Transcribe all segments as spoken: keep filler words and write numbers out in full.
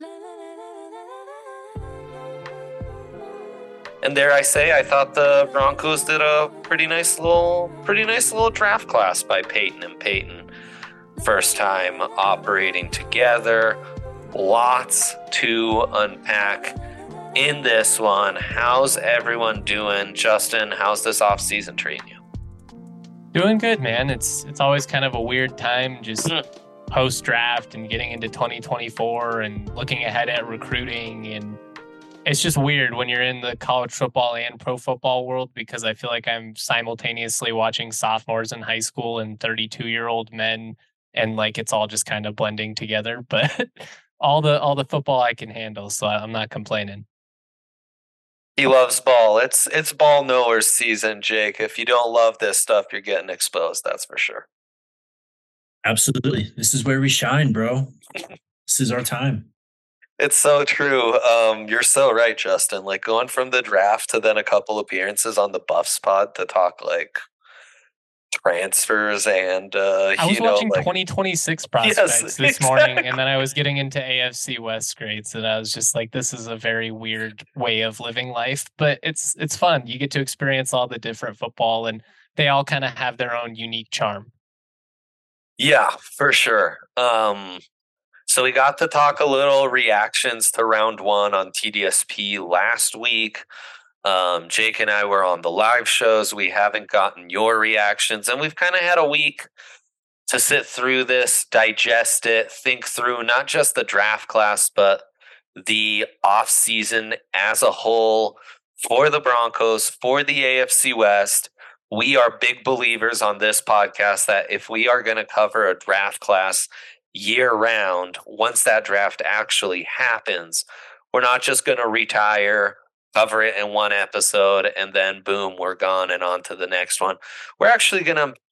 And dare I say, I thought the Broncos did a pretty nice little, pretty nice little draft class by Peyton and Peyton. First time operating together. Lots to unpack in this one. How's everyone doing? Justin, how's this offseason treating you? Doing good, man. It's it's always kind of a weird time just mm. post-draft and getting into twenty twenty-four and looking ahead at recruiting. And it's just weird when you're in the college football and pro football world, because I feel like I'm simultaneously watching sophomores in high school and thirty-two-year-old men, and like it's all just kind of blending together. But all the all the football I can handle, so I'm not complaining. He loves ball. It's it's ball knowers season, Jake. If you don't love this stuff, you're getting exposed. That's for sure. Absolutely. This is where we shine, bro. This is our time. It's so true. Um, you're so right, Justin. Like going from the draft to then a couple appearances on the Buffs pod to talk like transfers and uh I was you know, watching like, twenty twenty-six prospects yes, this exactly. morning, and then I was getting into A F C West grades, and I was just like, this is a very weird way of living life, but it's it's fun. You get to experience all the different football, and they all kind of have their own unique charm. Yeah, for sure. Um so we got to talk a little reactions to round one on T D S P last week. Um, Jake and I were on the live shows. We haven't gotten your reactions, and we've kind of had a week to sit through this, digest it, think through not just the draft class, but the offseason as a whole for the Broncos, for the A F C West. We are big believers on this podcast that if we are going to cover a draft class year round, once that draft actually happens, we're not just going to retire, cover it in one episode, and then boom, we're gone and on to the next one. We're actually going to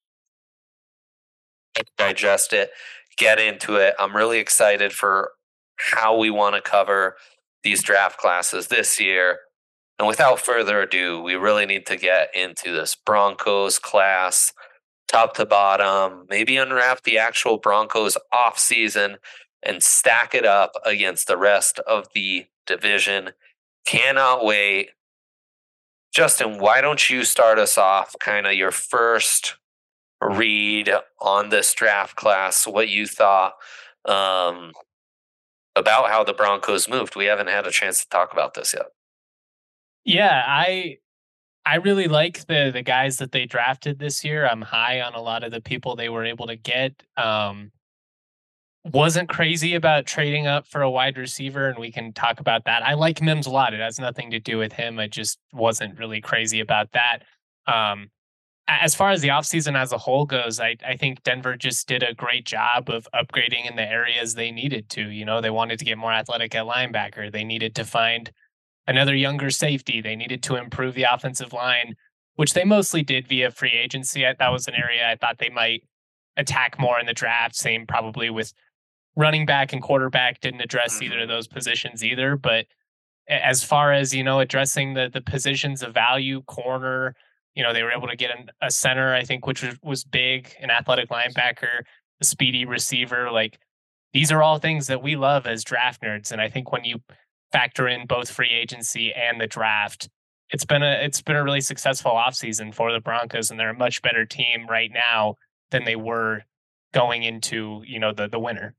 digest it, get into it. I'm really excited for how we want to cover these draft classes this year. And without further ado, we really need to get into this Broncos class, top to bottom, maybe unwrap the actual Broncos offseason and stack it up against the rest of the division. Cannot wait. Justin, why don't you start us off, kind of your first read on this draft class, what you thought um, about how the Broncos moved? We haven't had a chance to talk about this yet. Yeah, I I really like the the guys that they drafted this year. I'm high on a lot of the people they were able to get. Um, wasn't crazy about trading up for a wide receiver, and we can talk about that. I like Mims a lot. It has nothing to do with him. I just wasn't really crazy about that. Um, as far as the offseason as a whole goes, I, I think Denver just did a great job of upgrading in the areas they needed to. You know, they wanted to get more athletic at linebacker. They needed to find another younger safety. They needed to improve the offensive line, which they mostly did via free agency. That was an area I thought they might attack more in the draft. Same probably with running back and quarterback. Didn't address either of those positions either. But as far as, you know, addressing the the positions of value, corner, you know, they were able to get an, a center, I think, which was, was big, an athletic linebacker, a speedy receiver. Like, these are all things that we love as draft nerds. And I think when you factor in both free agency and the draft, it's been a it's been a really successful offseason for the Broncos, and they're a much better team right now than they were going into, you know, the the winter.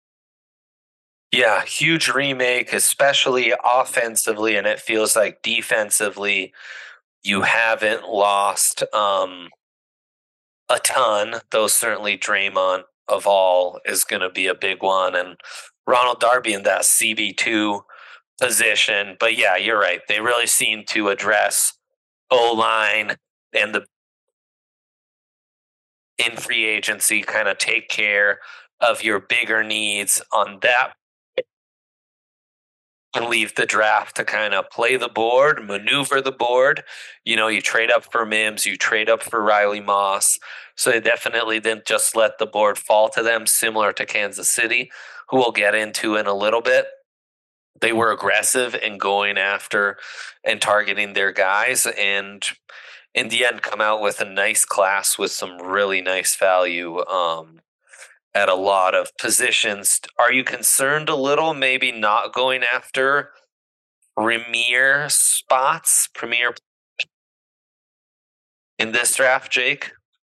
Yeah, huge remake, especially offensively, and it feels like defensively you haven't lost um, a ton, though certainly Draymond of all is going to be a big one, and Ronald Darby in that C B two position. But yeah, you're right. They really seem to address O-line and the in free agency, kind of take care of your bigger needs on that and leave the draft to kind of play the board, maneuver the board. You know, you trade up for Mims, you trade up for Riley Moss. So they definitely didn't just let the board fall to them, similar to Kansas City, who we'll get into in a little bit. They were aggressive in going after and targeting their guys, and in the end come out with a nice class with some really nice value. Um, at a lot of positions. Are you concerned a little, maybe not going after premier spots, premier in this draft, Jake?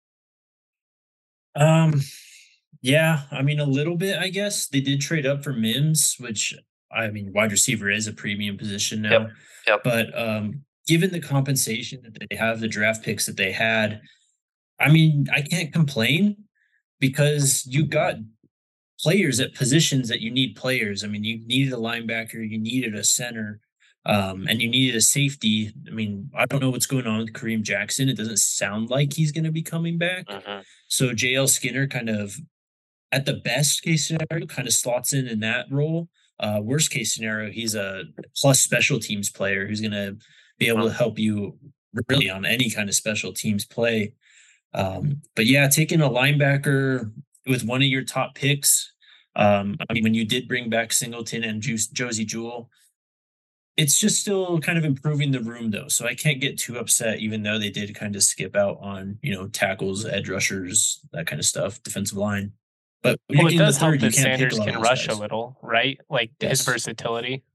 Um, yeah, I mean a little bit, I guess. They did trade up for Mims, which I mean wide receiver is a premium position now. Yep. Yep. But um given the compensation that they have, the draft picks that they had, I mean, I can't complain because you got players at positions that you need players. I mean, you needed a linebacker, you needed a center, um, and you needed a safety. I mean, I don't know what's going on with Kareem Jackson. It doesn't sound like he's going to be coming back. Mm-hmm. So J L Skinner kind of, at the best case scenario, kind of slots in in that role. Uh, worst case scenario, he's a plus special teams player who's going to be able to help you really on any kind of special teams play. Um, but yeah, taking a linebacker with one of your top picks. Um, I mean, when you did bring back Singleton and Juice, Josie Jewell, it's just still kind of improving the room though. So I can't get too upset, even though they did kind of skip out on, you know, tackles, edge rushers, that kind of stuff, defensive line. But well, it does help third, that Sanders can rush guys. a little, right? Like yes. his versatility.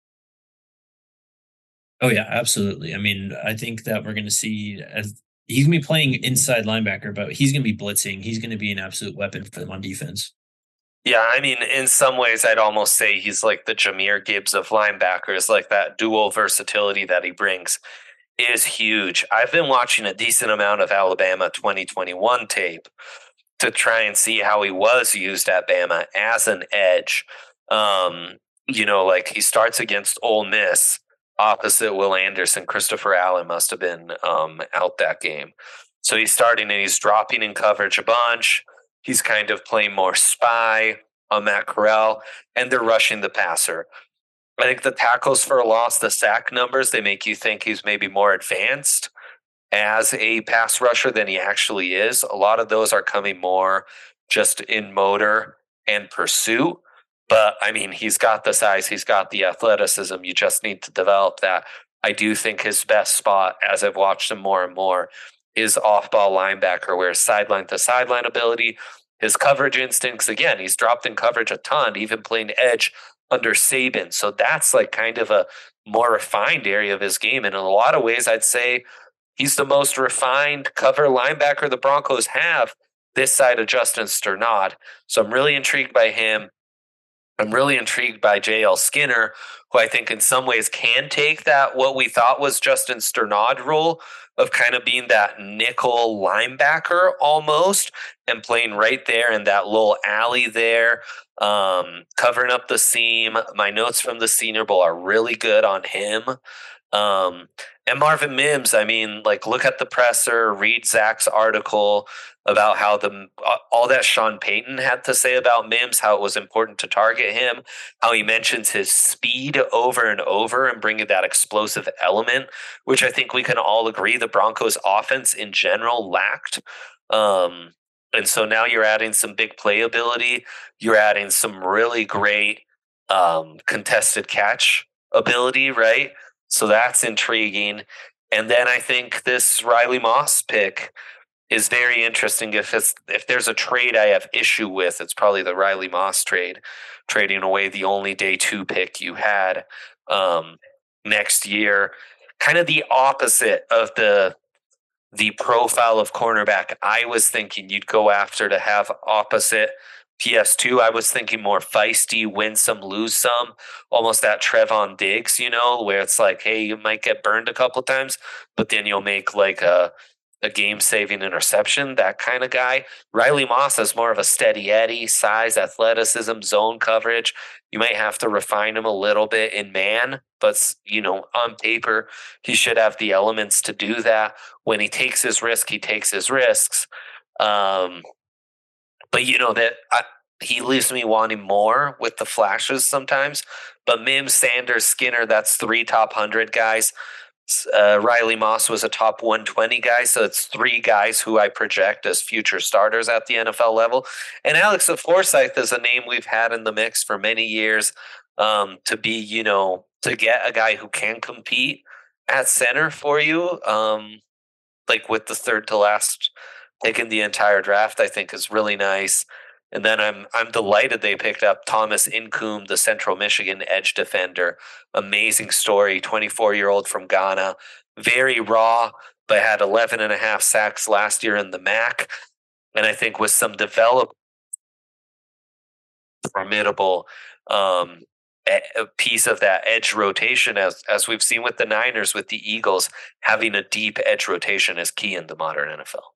Oh yeah, absolutely. I mean, I think that we're going to see as he's going to be playing inside linebacker, but he's going to be blitzing. He's going to be an absolute weapon for them on defense. Yeah, I mean, in some ways, I'd almost say he's like the Jahmyr Gibbs of linebackers, like that dual versatility that he brings is huge. I've been watching a decent amount of Alabama twenty twenty-one tape to try and see how he was used at Bama as an edge. Um, you know, like he starts against Ole Miss opposite Will Anderson. Christopher Allen must have been um, out that game. So he's starting and he's dropping in coverage a bunch. He's kind of playing more spy on Matt Corral, and they're rushing the passer. I think the tackles for a loss, the sack numbers, they make you think he's maybe more advanced as a pass rusher than he actually is. A lot of those are coming more just in motor and pursuit. But, I mean, he's got the size, he's got the athleticism. You just need to develop that. I do think his best spot, as I've watched him more and more, is off-ball linebacker, where sideline to sideline ability, his coverage instincts, again, he's dropped in coverage a ton, even playing edge under Saban. So that's like kind of a more refined area of his game. And in a lot of ways, I'd say he's the most refined cover linebacker the Broncos have this side of Justin Sternad. So I'm really intrigued by him. I'm really intrigued by J L Skinner, who I think in some ways can take that, what we thought was Justin Sternad role of kind of being that nickel linebacker almost and playing right there in that little alley there, um, covering up the seam. My notes from the Senior Bowl are really good on him. Um, and Marvin Mims, I mean, like, look at the presser, read Zach's article about how the all that Sean Payton had to say about Mims, how it was important to target him, how he mentions his speed over and over and bringing that explosive element, which I think we can all agree the Broncos offense in general lacked. Um, and so now you're adding some big playability. You're adding some really great um, contested catch ability, right? So that's intriguing. And then I think this Riley Moss pick is very interesting. If it's if there's a trade I have issue with, it's probably the Riley Moss trade, trading away the only day two pick you had um, next year. Kind of the opposite of the the profile of cornerback I was thinking you'd go after to have opposite P S two. I was thinking more feisty, win some, lose some, almost that Trevon Diggs, you know, where it's like, hey, you might get burned a couple times, but then you'll make like a a game-saving interception, that kind of guy. Riley Moss is more of a steady Eddie, size, athleticism, zone coverage. You might have to refine him a little bit in man, but, you know, on paper, he should have the elements to do that. When he takes his risk, he takes his risks. Um, but, you know, that I, he leaves me wanting more with the flashes sometimes. But Mims, Sanders, Skinner, that's three top one hundred guys. Uh, Riley Moss was a top one twenty guy, so it's three guys who I project as future starters at the N F L level. And Alex Forsyth is a name we've had in the mix for many years um, to be, you know, to get a guy who can compete at center for you, um, like with the third to last pick in the entire draft, I think is really nice. And then I'm I'm delighted they picked up Thomas Incoom, the Central Michigan edge defender. Amazing story, twenty-four-year-old from Ghana. Very raw, but had eleven and a half sacks last year in the M A C. And I think with some develop formidable um, a piece of that edge rotation, as as we've seen with the Niners, with the Eagles, having a deep edge rotation is key in the modern N F L.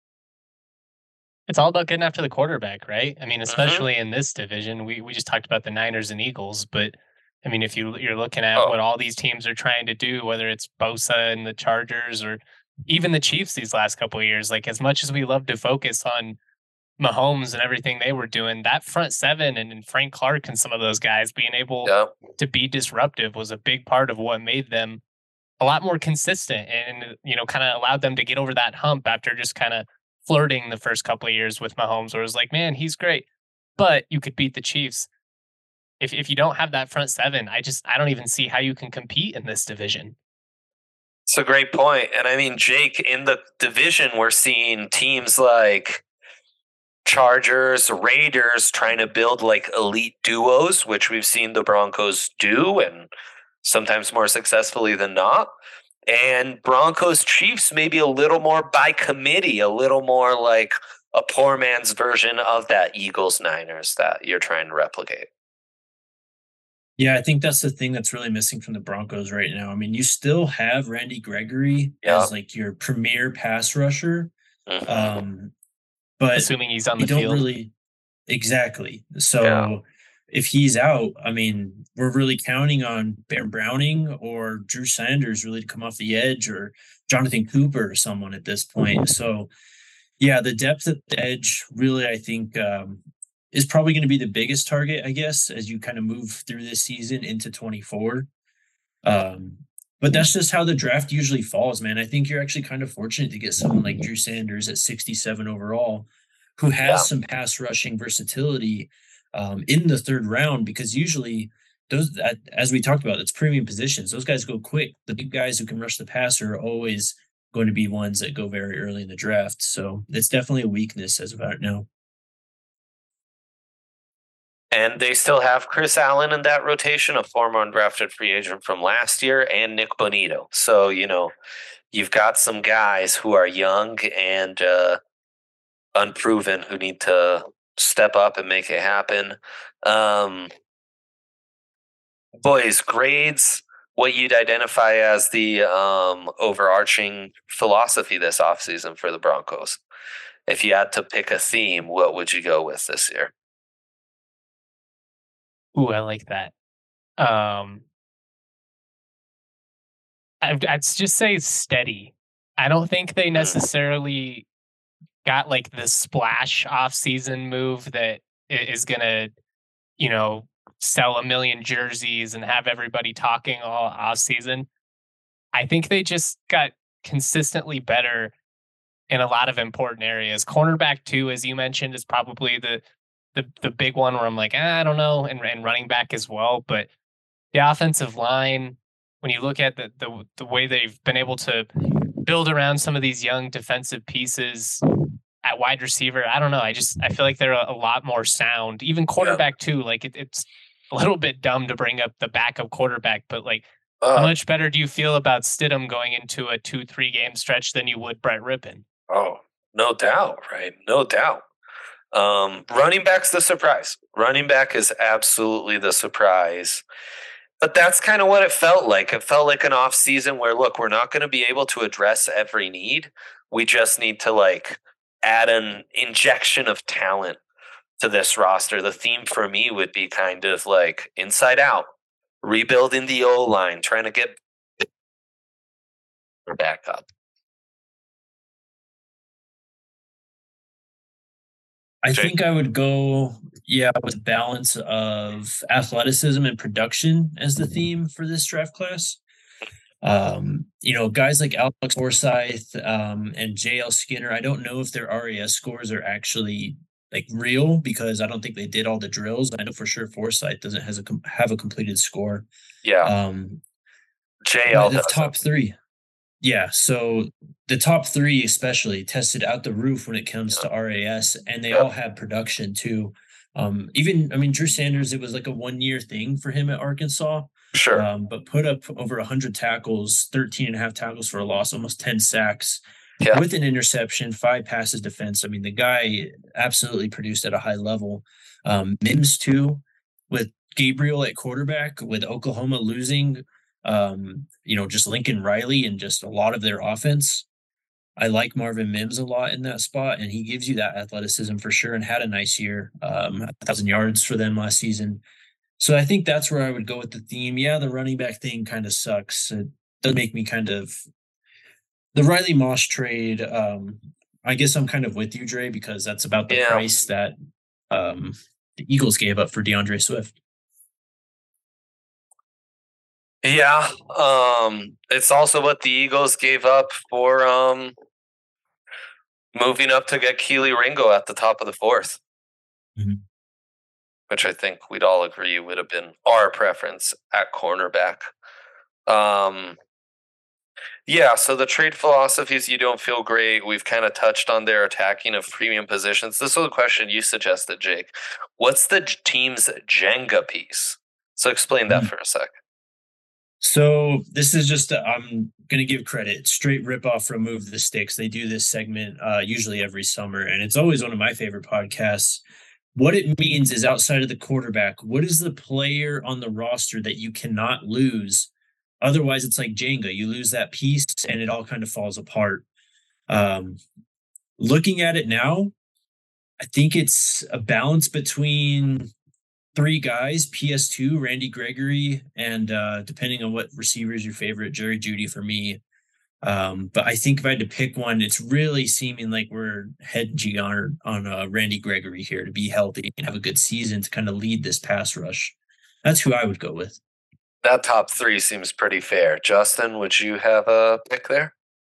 It's all about getting after the quarterback, right? I mean, especially mm-hmm. in this division, we we just talked about the Niners and Eagles, but I mean, if you you're looking at Oh. what all these teams are trying to do, whether it's Bosa and the Chargers or even the Chiefs these last couple of years, like as much as we love to focus on Mahomes and everything they were doing, that front seven and, and Frank Clark and some of those guys being able Yep. to be disruptive was a big part of what made them a lot more consistent and, you know, kind of allowed them to get over that hump after just kind of flirting the first couple of years with Mahomes, where it was like, man, he's great, but you could beat the Chiefs. If if you don't have that front seven, I just I don't even see how you can compete in this division. It's a great point. And I mean, Jake, in the division, we're seeing teams like Chargers, Raiders trying to build like elite duos, which we've seen the Broncos do, and sometimes more successfully than not. And Broncos Chiefs maybe a little more by committee, a little more like a poor man's version of that Eagles Niners that you're trying to replicate. Yeah, I think that's the thing that's really missing from the Broncos right now. I mean, you still have Randy Gregory Yeah. as like your premier pass rusher. Mhm. Um, but Assuming he's on you the don't field. really exactly. So Yeah. if he's out, I mean, we're really counting on Baron Browning or Drew Sanders really to come off the edge, or Jonathan Cooper or someone at this point. So yeah, the depth at the edge really, I think, um, is probably going to be the biggest target, I guess, as you kind of move through this season into twenty-four. Um, but that's just how the draft usually falls, man. I think you're actually kind of fortunate to get someone like Drew Sanders at sixty-seven overall, who has Yeah. some pass rushing versatility um, in the third round, because usually those, that, as we talked about, it's premium positions. Those guys go quick. The big guys who can rush the passer are always going to be ones that go very early in the draft. So it's definitely a weakness as of right now. And they still have Chris Allen in that rotation, a former undrafted free agent from last year, and Nick Bonito. So, you know, you've got some guys who are young and uh, unproven who need to step up and make it happen. Um, boys, grades, what you'd identify as the um, overarching philosophy this offseason for the Broncos. If you had to pick a theme, what would you go with this year? Ooh, I like that. Um, I'd, I'd just say steady. I don't think they necessarily got like the splash off-season move that is gonna, you know, sell a million jerseys and have everybody talking all off-season. I think they just got consistently better in a lot of important areas. Cornerback too, as you mentioned, is probably the the the big one where I'm like, ah, I don't know, and, and running back as well. But the offensive line, when you look at the, the the way they've been able to build around some of these young defensive pieces at wide receiver, I don't know. I just I feel like they're a, a lot more sound. Even quarterback too. Like it, it's a little bit dumb to bring up the backup quarterback, but like, uh, how much better do you feel about Stidham going into a two three game stretch than you would Brett Rippon? Oh, no doubt, right? No doubt. Um, running back's the surprise. Running back is absolutely the surprise. But that's kind of what it felt like. It felt like an off season where, look, we're not going to be able to address every need. We just need to like add an injection of talent to this roster. The theme for me would be kind of like inside out, rebuilding the O-line, trying to get back up. I think I would go, yeah, with balance of athleticism and production as the theme for this draft class. Um, you know, guys like Alex Forsyth um, and J L Skinner, I don't know if their R A S scores are actually like real, because I don't think they did all the drills. I know for sure Forsyth doesn't has a com- have a completed score. Yeah. Um, J L the top three. Yeah, so the top three especially tested out the roof when it comes Yeah. to R A S, and they Yep. all had production too. Um, even I mean, Drew Sanders, it was like a one year thing for him at Arkansas, Sure. um, but put up over one hundred tackles, thirteen and a half tackles for a loss, almost ten sacks Yeah. with an interception, five passes defense. I mean, the guy absolutely produced at a high level. Um, Mims too, with Gabriel at quarterback, with Oklahoma losing um, you know, just Lincoln Riley and just a lot of their offense. I like Marvin Mims a lot in that spot, and he gives you that athleticism for sure and had a nice year, um, a thousand yards for them last season. So I think that's where I would go with the theme. Yeah, the running back thing kind of sucks. It does make me kind of the Riley Moss trade. Um, I guess I'm kind of with you, Dre, because that's about the Yeah. price that um, the Eagles gave up for DeAndre Swift. Yeah. Um, it's also what the Eagles gave up for um moving up to get Keely Ringo at the top of the fourth. Mhm. Which I think we'd all agree would have been our preference at cornerback. Um, yeah, so the trade philosophies, you don't feel great. We've kind of touched on their attacking of premium positions. This was a question you suggested, Jake. What's the team's Jenga piece? So explain that Mhm. for a sec. So this is just i I'm going to give credit. Straight rip off Remove the Sticks. They do this segment uh, usually every summer, and it's always one of my favorite podcasts. What it means is outside of the quarterback, what is the player on the roster that you cannot lose? Otherwise, it's like Jenga. You lose that piece, and it all kind of falls apart. Um, looking at it now, I think it's a balance between three guys, P S two, Randy Gregory, and uh, depending on what receiver is your favorite, Jerry Judy for me. Um, but I think if I had to pick one, it's really seeming like we're hedging on on uh, Randy Gregory here to be healthy and have a good season to kind of lead this pass rush. That's who I would go with. That top three seems pretty fair. Justin, would you have a pick there?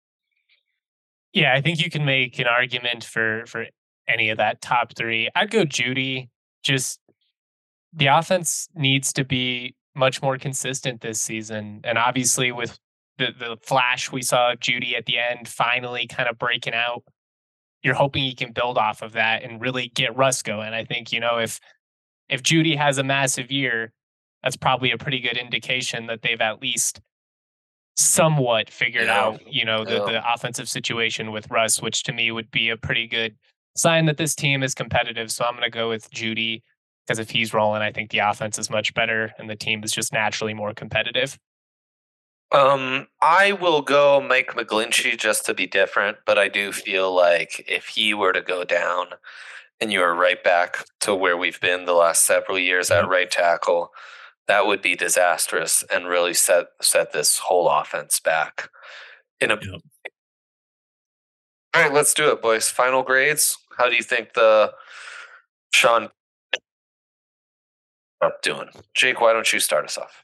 Yeah, I think you can make an argument for for any of that top three. I'd go Judy. Just the offense needs to be much more consistent this season, and obviously with the the flash we saw of Judy at the end, finally kind of breaking out. You're hoping he can build off of that and really get Russ going. I think you know if if Judy has a massive year, that's probably a pretty good indication that they've at least somewhat figured Yeah. out, you know, the Yeah. the offensive situation with Russ, which to me would be a pretty good sign that this team is competitive. So I'm going to go with Judy because if he's rolling, I think the offense is much better and the team is just naturally more competitive. Um, I will go Mike McGlinchey just to be different, but I do feel like if he were to go down and you were right back to where we've been the last several years at Yep. right tackle, that would be disastrous and really set set this whole offense back. In a Yep. All right, let's do it, boys. Final grades. How do you think the Sean up doing? Jake, why don't you start us off?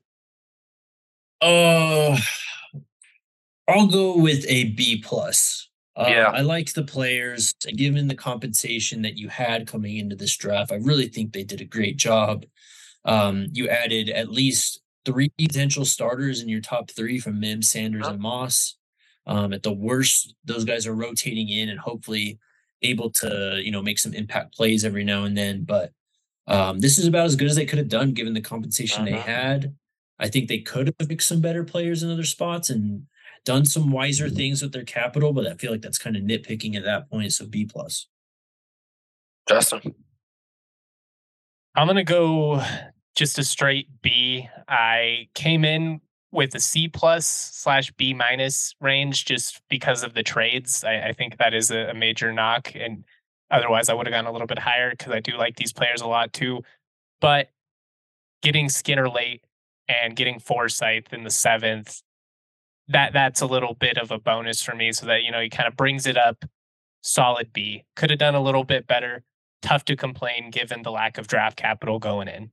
Uh, I'll go with a B plus. Um, Yeah. I liked the players, given the compensation that you had coming into this draft. I really think they did a great job. Um, you added at least three potential starters in your top three from Mims, Sanders, Yep. and Moss. Um, at the worst, those guys are rotating in and hopefully able to, you know, make some impact plays every now and then. But um, this is about as good as they could have done given the compensation they Mhm. had. I think they could have picked some better players in other spots and done some wiser things with their capital, but I feel like that's kind of nitpicking at that point. So B plus. Justin. I'm going to go just a straight B. I came in with a C plus slash B minus range just because of the trades. I, I think that is a, a major knock. And otherwise, I would have gone a little bit higher because I do like these players a lot too. But getting Skinner late and getting Forsyth in the seventh, that that's a little bit of a bonus for me. So that, you know, he kind of brings it up. Solid B. Could have done a little bit better. Tough to complain given the lack of draft capital going in.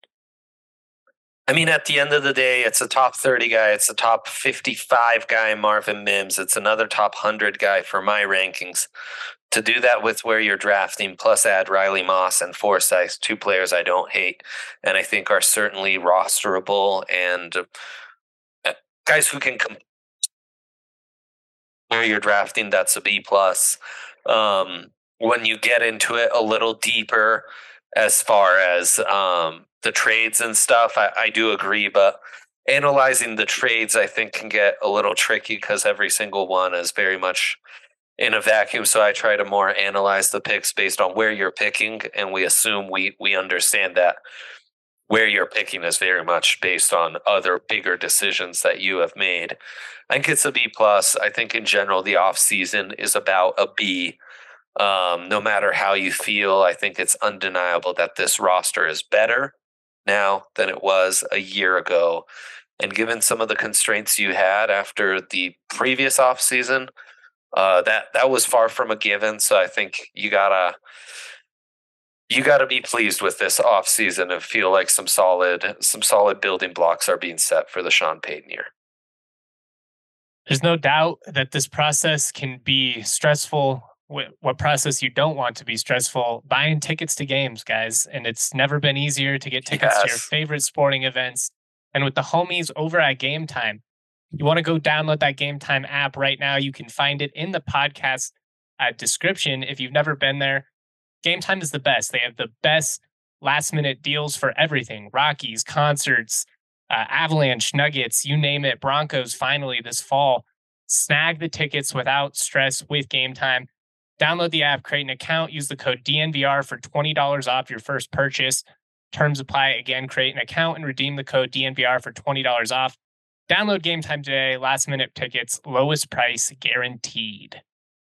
I mean, at the end of the day, it's a top thirty guy. It's a top fifty-five guy, Marvin Mims. It's another top one hundred guy for my rankings. To do that with where you're drafting, plus add Riley Moss and Forsyth, two players I don't hate and I think are certainly rosterable and uh, guys who can compete where you're drafting, that's a B plus. Um, when you get into it a little deeper, as far as um, the trades and stuff, I, I do agree, but analyzing the trades, I think, can get a little tricky because every single one is very much in a vacuum. So I try to more analyze the picks based on where you're picking, and we assume we we understand that where you're picking is very much based on other bigger decisions that you have made. I think it's a B plus. I think in general the off season is about a B. Um, no matter how you feel, I think it's undeniable that this roster is better now than it was a year ago. And given some of the constraints you had after the previous offseason, uh, that that was far from a given. So I think you gotta you gotta be pleased with this offseason and feel like some solid some solid building blocks are being set for the Sean Payton year. There's no doubt that this process can be stressful. What process you don't want to be stressful? Buying tickets to games, guys. And it's never been easier to get tickets yes. to your favorite sporting events. And with the homies over at Game Time, you want to go download that Game Time app right now. You can find it in the podcast uh, description if you've never been there. Game Time is the best. They have the best last minute deals for everything. Rockies, concerts, uh, Avalanche, Nuggets, you name it. Broncos finally this fall. Snag the tickets without stress with Game Time. Download the app, create an account, use the code D N V R for twenty dollars off your first purchase. Terms apply. Again, create an account and redeem the code D N V R for twenty dollars off. Download Game Time today. Last minute tickets, lowest price guaranteed.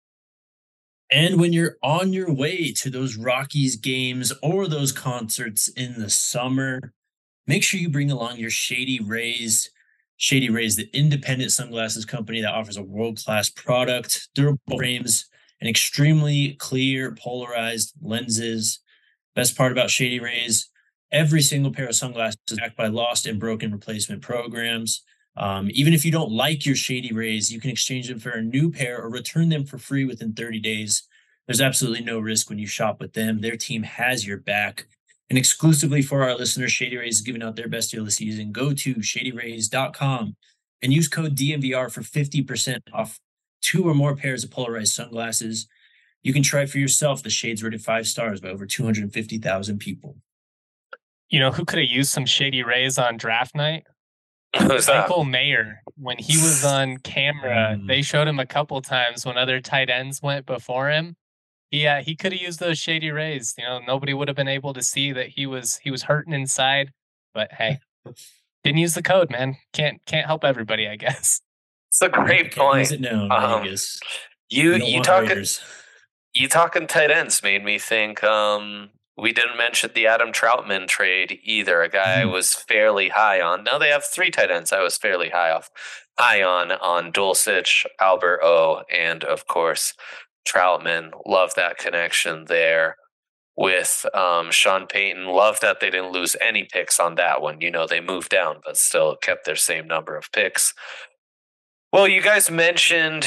And when you're on your way to those Rockies games or those concerts in the summer, make sure you bring along your Shady Rays. Shady Rays, the independent sunglasses company that offers a world-class product, durable frames, and extremely clear polarized lenses. Best part about Shady Rays, every single pair of sunglasses is backed by lost and broken replacement programs. Um, even if you don't like your Shady Rays, you can exchange them for a new pair or return them for free within thirty days. There's absolutely no risk when you shop with them. Their team has your back. And exclusively for our listeners, Shady Rays is giving out their best deal this season. Go to shady rays dot com and use code D N V R for fifty percent off two or more pairs of polarized sunglasses. You can try for yourself. The shades rated five stars by over two hundred fifty thousand people. You know who could have used some Shady Rays on draft night? Who's Michael that? Mayer. When he was on camera, mm. they showed him a couple times when other tight ends went before him. Yeah, he could have used those Shady Rays. You know, nobody would have been able to see that he was he was hurting inside. But hey, didn't use the code, man. Can't can't help everybody, I guess. It's a great point. Use it now, um, Vegas. You you, you talking you talking tight ends made me think. Um, we didn't mention the Adam Troutman trade either. A guy mm-hmm. I was fairly high on. Now they have three tight ends. I was fairly high off high on on Dulcich, Albert O, and of course Troutman. Love that connection there with um, Sean Payton. Love that they didn't lose any picks on that one. You know, they moved down, but still kept their same number of picks. Well, you guys mentioned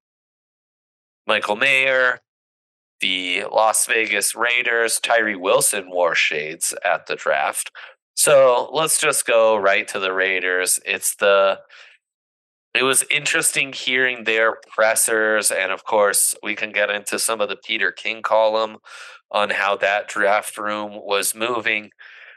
Michael Mayer, the Las Vegas Raiders. Tyree Wilson wore shades at the draft. So let's just go right to the Raiders. It's the It was interesting hearing their pressers, and of course, we can get into some of the Peter King column on how that draft room was moving,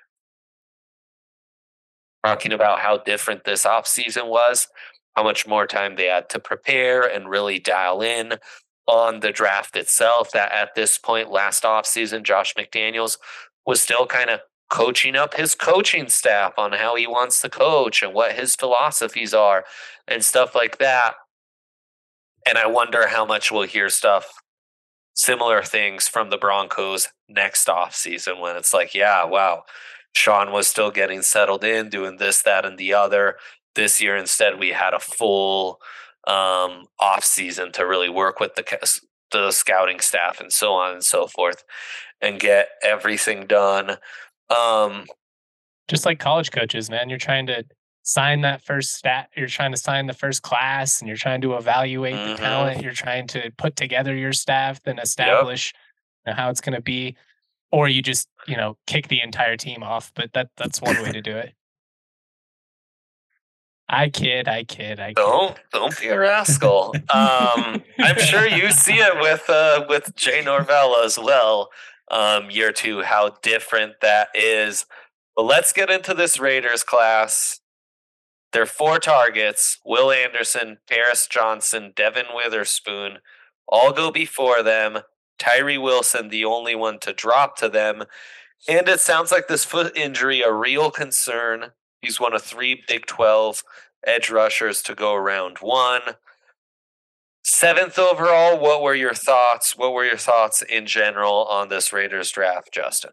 talking about how different this offseason was, how much more time they had to prepare and really dial in on the draft itself. That at this point, last offseason, Josh McDaniels was still kind of coaching up his coaching staff on how he wants to coach and what his philosophies are and stuff like that. And I wonder how much we'll hear stuff, similar things from the Broncos next offseason when it's like, yeah, wow, Sean was still getting settled in, doing this, that, and the other. This year, instead, we had a full um, offseason to really work with the, the scouting staff and so on and so forth and get everything done. Um, Just like college coaches, man, you're trying to sign that first stat. You're trying to sign the first class and you're trying to evaluate mm-hmm. the talent. You're trying to put together your staff, then establish yep. you know, how it's going to be, or you just, you know, kick the entire team off. But that that's one way to do it. I kid, I kid, I kid. Don't don't be a rascal. Um, I'm sure you see it with uh, with Jay Norvell as well. Um, year two, how different that is. But let's get into this Raiders class. Their four targets: Will Anderson, Paris Johnson, Devin Witherspoon, all go before them. Tyree Wilson, the only one to drop to them. And it sounds like this foot injury a real concern. He's one of three Big twelve edge rushers to go round one. Seventh overall, what were your thoughts? What were your thoughts in general on this Raiders draft, Justin?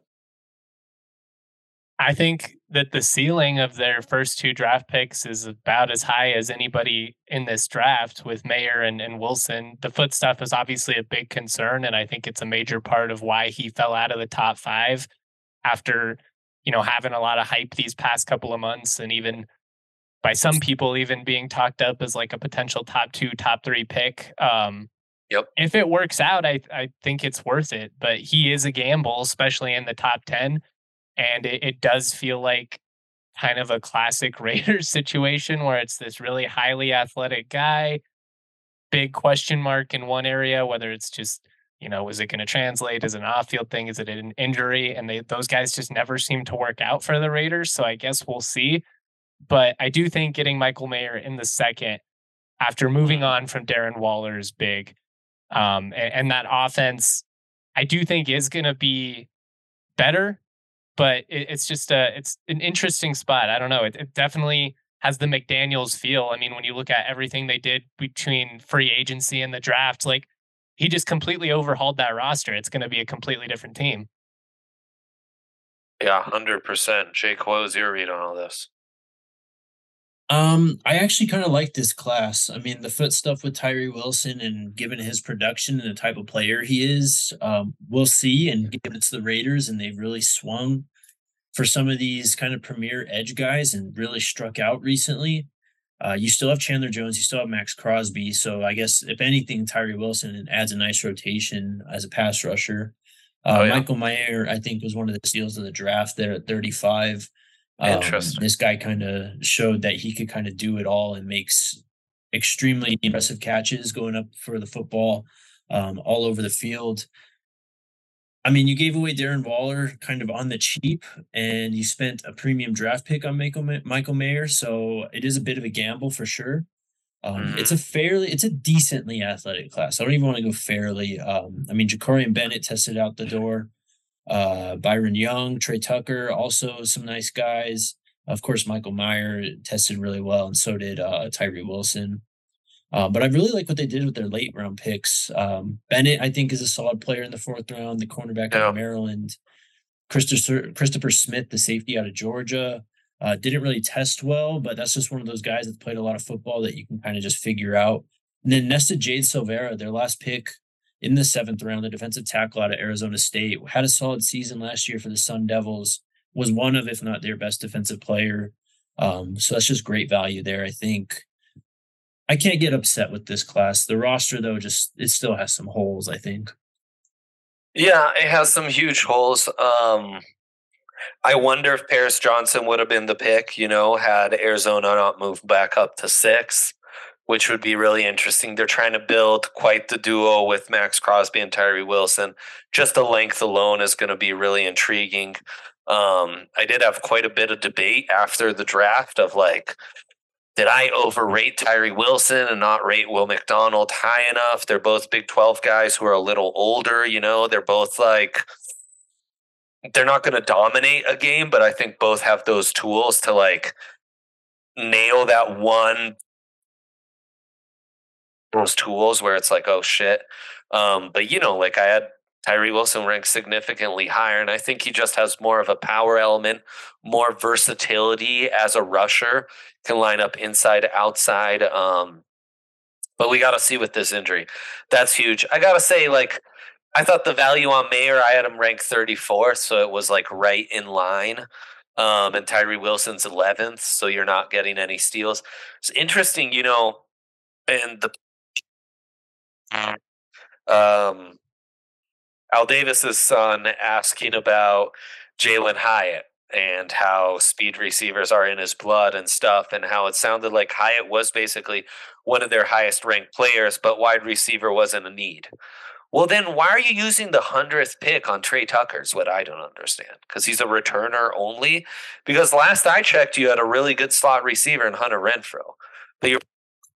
I think that the ceiling of their first two draft picks is about as high as anybody in this draft with Mayer and, and Wilson. The foot stuff is obviously a big concern, and I think it's a major part of why he fell out of the top five after, you know, having a lot of hype these past couple of months, and even by some people even being talked up as like a potential top two, top three pick. Um, Yep. if it works out, I I think it's worth it. But he is a gamble, especially in the top ten. And it, it does feel like kind of a classic Raiders situation where it's this really highly athletic guy, big question mark in one area, whether it's just, you know, is it going to translate? Is it an off field thing? Is it an injury? And they, those guys just never seem to work out for the Raiders. So I guess we'll see. But I do think getting Michael Mayer in the second after moving on from Darren Waller is big. Um, and, and that offense, I do think is going to be better, but it, it's just a, it's an interesting spot. I don't know. It, it definitely has the McDaniels feel. I mean, when you look at everything they did between free agency and the draft, like he just completely overhauled that roster. It's going to be a completely different team. Yeah, one hundred percent. Jake, what was your read on all this? Um, I actually kind of like this class. I mean, the foot stuff with Tyree Wilson and given his production and the type of player he is, um, we'll see. And given it's the Raiders and they've really swung for some of these kind of premier edge guys and really struck out recently. Uh, you still have Chandler Jones, you still have Max Crosby. So I guess if anything, Tyree Wilson adds a nice rotation as a pass rusher. Uh, Oh, yeah. Michael Mayer, I think, was one of the steals of the draft there at thirty-five. Um, Interesting. this guy kind of showed that he could kind of do it all and makes extremely impressive catches going up for the football um, all over the field. I mean, you gave away Darren Waller kind of on the cheap, and you spent a premium draft pick on Michael, Michael Mayer, so it is a bit of a gamble for sure. Um, Mhm. It's a fairly, it's a decently athletic class. I don't even want to go fairly. Um, I mean, Jacorian Bennett tested out the door. Uh, Byron Young, Trey Tucker, also some nice guys. Of course, Michael Mayer tested really well, and so did uh, Tyree Wilson. Uh, but I really like what they did with their late round picks. Um, Bennett, I think, is a solid player in the fourth round, the cornerback out Yeah. of Maryland. Christopher Christopher Smith, the safety out of Georgia, uh, didn't really test well, but that's just one of those guys that played a lot of football that you can kind of just figure out. And then Nesta Jade Silvera, their last pick in the seventh round, the defensive tackle out of Arizona State, had a solid season last year for the Sun Devils, was one of, if not their best defensive player. Um, so that's just great value there, I think. I can't get upset with this class. The roster, though, just it still has some holes, I think. Yeah, it has some huge holes. Um, I wonder if Paris Johnson would have been the pick, you know, had Arizona not moved back up to six, which would be really interesting. They're trying to build quite the duo with Max Crosby and Tyree Wilson. Just the length alone is going to be really intriguing. Um, I did have quite a bit of debate after the draft of like, did I overrate Tyree Wilson and not rate Will McDonald high enough? They're both Big twelve guys who are a little older, you know, they're both like, they're not going to dominate a game, but I think both have those tools to like nail that one, those tools where it's like, oh shit. Um, but you know, like I had Tyree Wilson ranked significantly higher, and I think he just has more of a power element, more versatility as a rusher, can line up inside, outside. Um, but we got to see with this injury. That's huge. I got to say, like, I thought the value on Mayer, I had him ranked thirty-fourth, so it was like right in line. Um, and Tyree Wilson's eleventh, so you're not getting any steals. It's interesting, you know, and the um, Al Davis's son asking about Jalen Hyatt. and how speed receivers are in his blood and stuff, and how it sounded like Hyatt was basically one of their highest ranked players, but wide receiver wasn't a need. Well, then why are you using the hundredth pick on Trey Tucker is what I don't understand. Because he's a returner only? Because last I checked, you had a really good slot receiver in Hunter Renfrow. But you're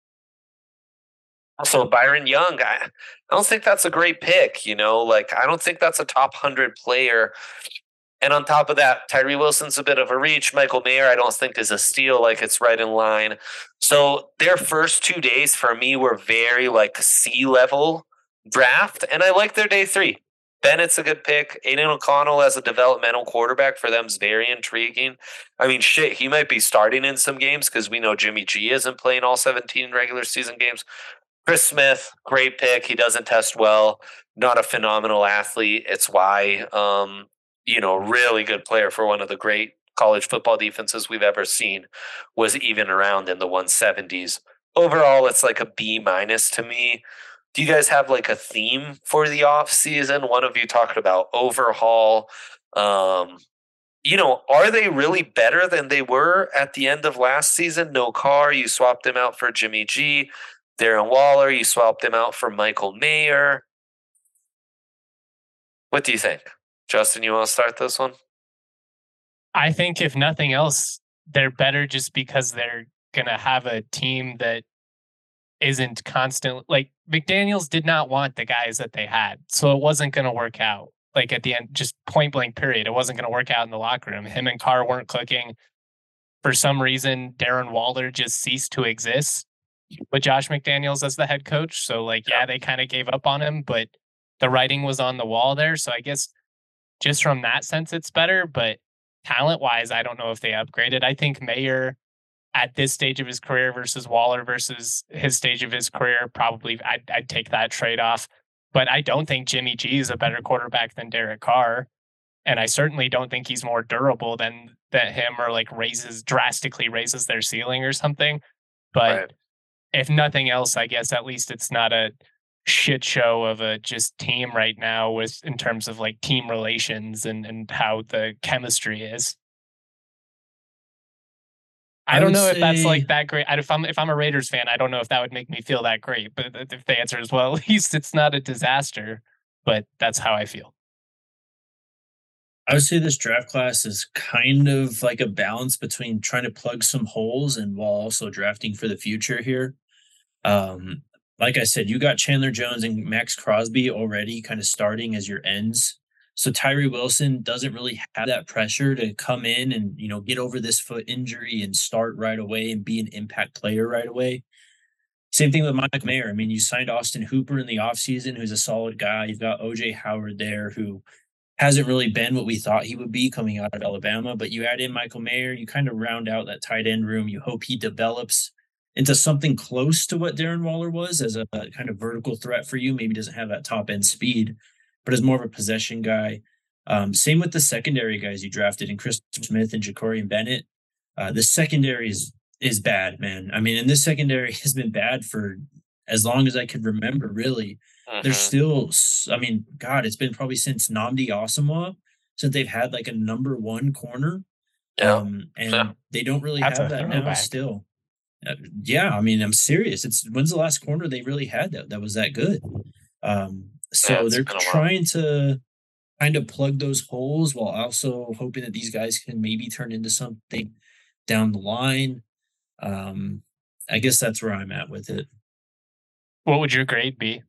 also Byron Young. I, I don't think that's a great pick, you know? Like, I don't think that's a top one hundred player. And on top of that, Tyree Wilson's a bit of a reach. Michael Mayer, I don't think is a steal. Like, it's right in line. So their first two days for me were very like C-level draft, and I like their day three. Bennett's a good pick. Aiden O'Connell as a developmental quarterback for them is very intriguing. I mean, shit, he might be starting in some games because we know Jimmy G isn't playing all seventeen regular season games. Chris Smith, great pick. He doesn't test well. Not a phenomenal athlete. It's why, um, you know, really good player for one of the great college football defenses we've ever seen, was even around in the one seventies. Overall, it's like a B minus to me. Do you guys have like a theme for the off season? One of you talked about overhaul. Um, you know, are they really better than they were at the end of last season? No Carr, you swapped him out for Jimmy G. Darren Waller, you swapped him out for Michael Mayer. What do you think? Justin, you want to start this one? I think if nothing else, they're better just because they're going to have a team that isn't constant. Like, McDaniels did not want the guys that they had, so it wasn't going to work out. Like, at the end, just point blank period, it wasn't going to work out in the locker room. Him and Carr weren't clicking. For some reason, Darren Waller just ceased to exist with Josh McDaniels as the head coach. So, like, yeah, they kind of gave up on him, but the writing was on the wall there. So I guess just from that sense, it's better. But talent-wise, I don't know if they upgraded. I think Mayer at this stage of his career versus Waller versus his stage of his career, probably I'd, I'd take that trade-off. But I don't think Jimmy G is a better quarterback than Derek Carr. And I certainly don't think he's more durable than, than him, or like raises drastically raises their ceiling or something. But right. If nothing else, I guess at least it's not a shit show of a just team right now with in terms of like team relations and, and how the chemistry is. I, I don't know say... if that's like that great. If I'm if I'm a Raiders fan, I don't know if that would make me feel that great. But if the answer is well, at least it's not a disaster. But that's how I feel. I would say this draft class is kind of like a balance between trying to plug some holes and while also drafting for the future here. Um, like I said, you got Chandler Jones and Max Crosby already kind of starting as your ends. So Tyree Wilson doesn't really have that pressure to come in and, you know, get over this foot injury and start right away and be an impact player right away. Same thing with Mike Mayer. I mean, you signed Austin Hooper in the offseason, who's a solid guy. You've got O J Howard there, who hasn't really been what we thought he would be coming out of Alabama, but you add in Michael Mayer, you kind of round out that tight end room. You hope he develops into something close to what Darren Waller was as a, a kind of vertical threat for you. Maybe doesn't have that top end speed, but is more of a possession guy. Um, same with the secondary guys you drafted in Chris Smith and Jacorian Bennett. Uh, the secondary is, is bad, man. I mean, and this secondary has been bad for as long as I could remember, really. Uh-huh. There's still, I mean, God, it's been probably since Nnamdi Asomugha since they've had like a number one corner. Yeah. Um, and yeah. they don't really That's have that now back. Still. Uh, yeah, I mean, I'm serious. It's when's the last corner they really had that that was that good? Um, so yeah, they're trying to kind of plug those holes while also hoping that these guys can maybe turn into something down the line. Um, I guess that's where I'm at with it. What would your grade be?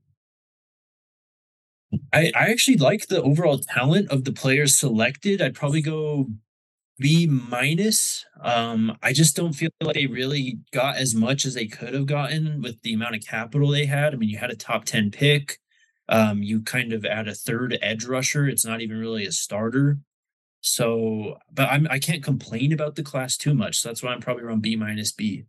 I, I actually like the overall talent of the players selected. I'd probably go B minus. Um, I just don't feel like they really got as much as they could have gotten with the amount of capital they had. I mean, you had a top ten pick. Um, you kind of add a third edge rusher. It's not even really a starter. So, but I'm I can't complain about the class too much. So that's why I'm probably around B minus B.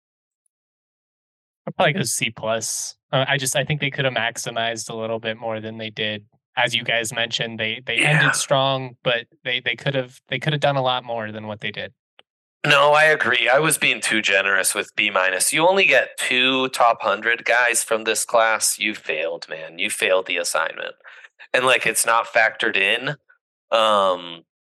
I'll probably go C plus. Uh, I just I think they could have maximized a little bit more than they did. As you guys mentioned, they they yeah. ended strong, but they they could have they could have done a lot more than what they did. No, I agree. I was being too generous with B minus. You only get two top hundred guys from this class. You failed, man. You failed the assignment, and like it's not factored in. Um,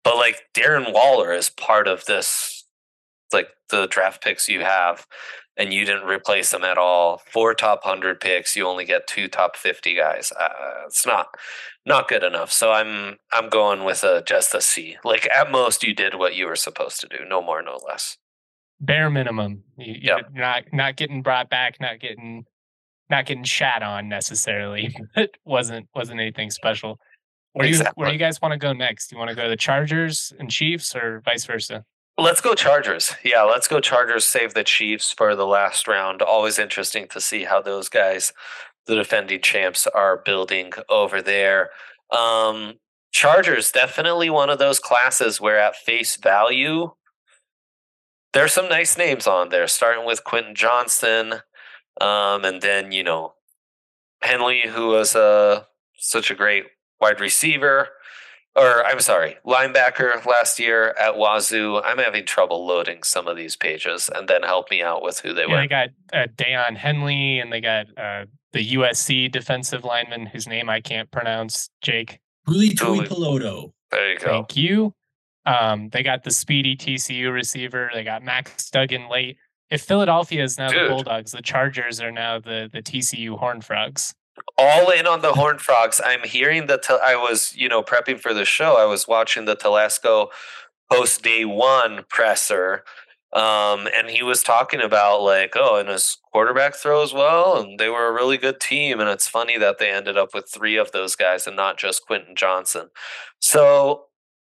But like Darren Waller is part of this, like the draft picks you have, and you didn't replace him at all. Four top one hundred picks, you only get two top fifty guys. Uh, it's not not good enough. So I'm I'm going with a just a C. Like at most, you did what you were supposed to do. No more, no less. Bare minimum. You, Yep. You're not not getting brought back, not getting not getting shat on necessarily. It wasn't wasn't anything special. Where do you where do Exactly. you guys want to go next? You want to go to the Chargers and Chiefs or vice versa? Let's go Chargers. Yeah, let's go Chargers. Save the Chiefs for the last round. Always interesting to see how those guys, the defending champs, are building over there. Um, Chargers, definitely one of those classes where at face value, there's some nice names on there, starting with Quentin Johnston, um, and then, you know, Henley, who was uh, such a great wide receiver. Or I'm sorry, linebacker last year at Wazoo. I'm having trouble loading some of these pages, and then help me out with who they Yeah, were. they got uh, Deion Henley, and they got uh, the U S C defensive lineman whose name I can't pronounce. Jake. Huli Tui Tui. Peloto. There you go. Thank you. Um, they got the speedy T C U receiver. They got Max Duggan late. If Philadelphia is now Dude. the Bulldogs, the Chargers are now the the T C U Horned Frogs. All in on the Horned Frogs. I'm hearing that I was, you know, prepping for the show. I was watching the Telesco post day one presser. Um, and he was talking about like, oh, and his quarterback throws well, and they were a really good team. And it's funny that they ended up with three of those guys and not just Quentin Johnson. So,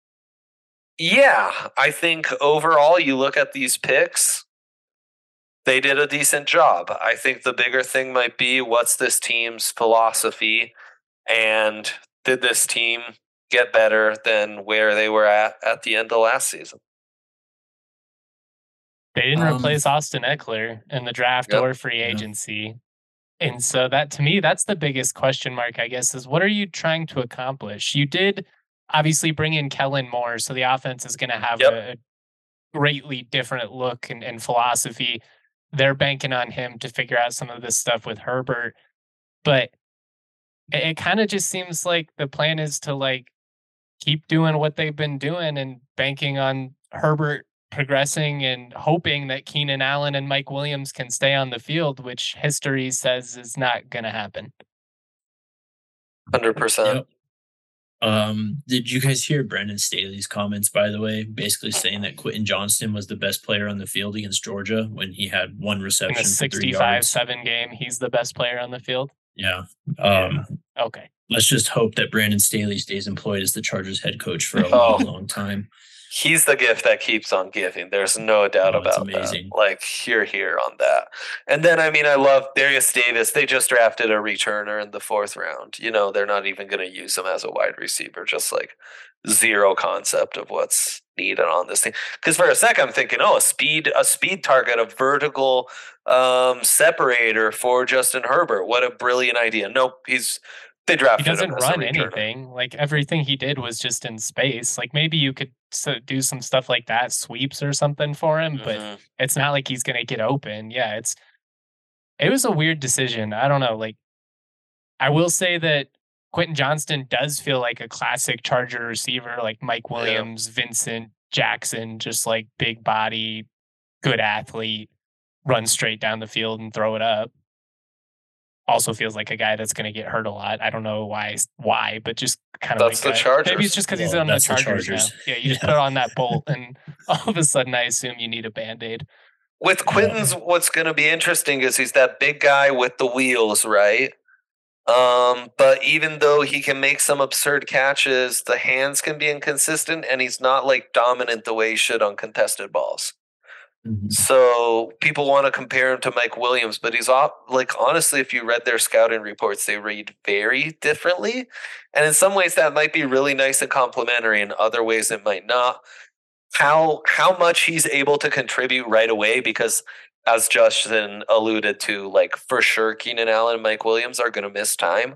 yeah, I think overall, you look at these picks, they did a decent job. I think the bigger thing might be what's this team's philosophy, and did this team get better than where they were at at the end of last season? They didn't Um, replace Austin Eckler in the draft Yep. or free Yeah. agency. And so that to me, that's the biggest question mark, I guess, is what are you trying to accomplish? You did obviously bring in Kellen Moore, so the offense is going to have Yep. a greatly different look and, and philosophy. They're banking on him to figure out some of this stuff with Herbert. But it, it kind of just seems like the plan is to like keep doing what they've been doing and banking on Herbert progressing and hoping that Keenan Allen and Mike Williams can stay on the field, which history says is not going to happen. one hundred percent. Yep. Um, did you guys hear Brandon Staley's comments, by the way, basically saying that Quentin Johnston was the best player on the field against Georgia when he had one In reception a for three sixty-five yards? seven game, he's the best player on the field. Yeah. Um, Okay. let's just hope that Brandon Staley stays employed as the Chargers head coach for a Oh. long, long time. He's the gift that keeps on giving. There's no doubt Oh, it's about amazing. that. Like, here, here on that. And then, I mean, I love Darius Davis. They just drafted a returner in the fourth round. You know, they're not even going to use him as a wide receiver. Just like zero concept of what's needed on this thing. Because for a sec, I'm thinking, oh, a speed, a speed target, a vertical um, separator for Justin Herbert. What a brilliant idea. Nope, he's they He drafted doesn't him as a run returner. anything. Like everything he did was just in space. Like maybe you could so do some stuff like that, sweeps or something for him, but Mhm. it's not like he's going to get open. Yeah, it's it was a weird decision. I don't know. Like I will say that Quentin Johnston does feel like a classic Charger receiver, like Mike Williams, Vincent Jackson, just like big body, good athlete, run straight down the field and throw it up. Also feels like a guy that's going to get hurt a lot. I don't know why, why, but just kind of That's like the that. Chargers. Maybe it's just because he's Well, on the that's the Chargers, Chargers. now. Yeah, you just Yeah. put on that bolt, and all of a sudden, I assume you need a band aid. With Quentin's, what's going to be interesting is he's that big guy with the wheels, right? Um, but even though he can make some absurd catches, the hands can be inconsistent, and he's not like dominant the way he should on contested balls. Mhm. So people want to compare him to Mike Williams, but he's off. Like honestly, if you read their scouting reports, they read very differently, and in some ways that might be really nice and complimentary. In other ways, it might not. How how much he's able to contribute right away, because as Justin alluded to, like for sure, Keenan Allen and Mike Williams are going to miss time.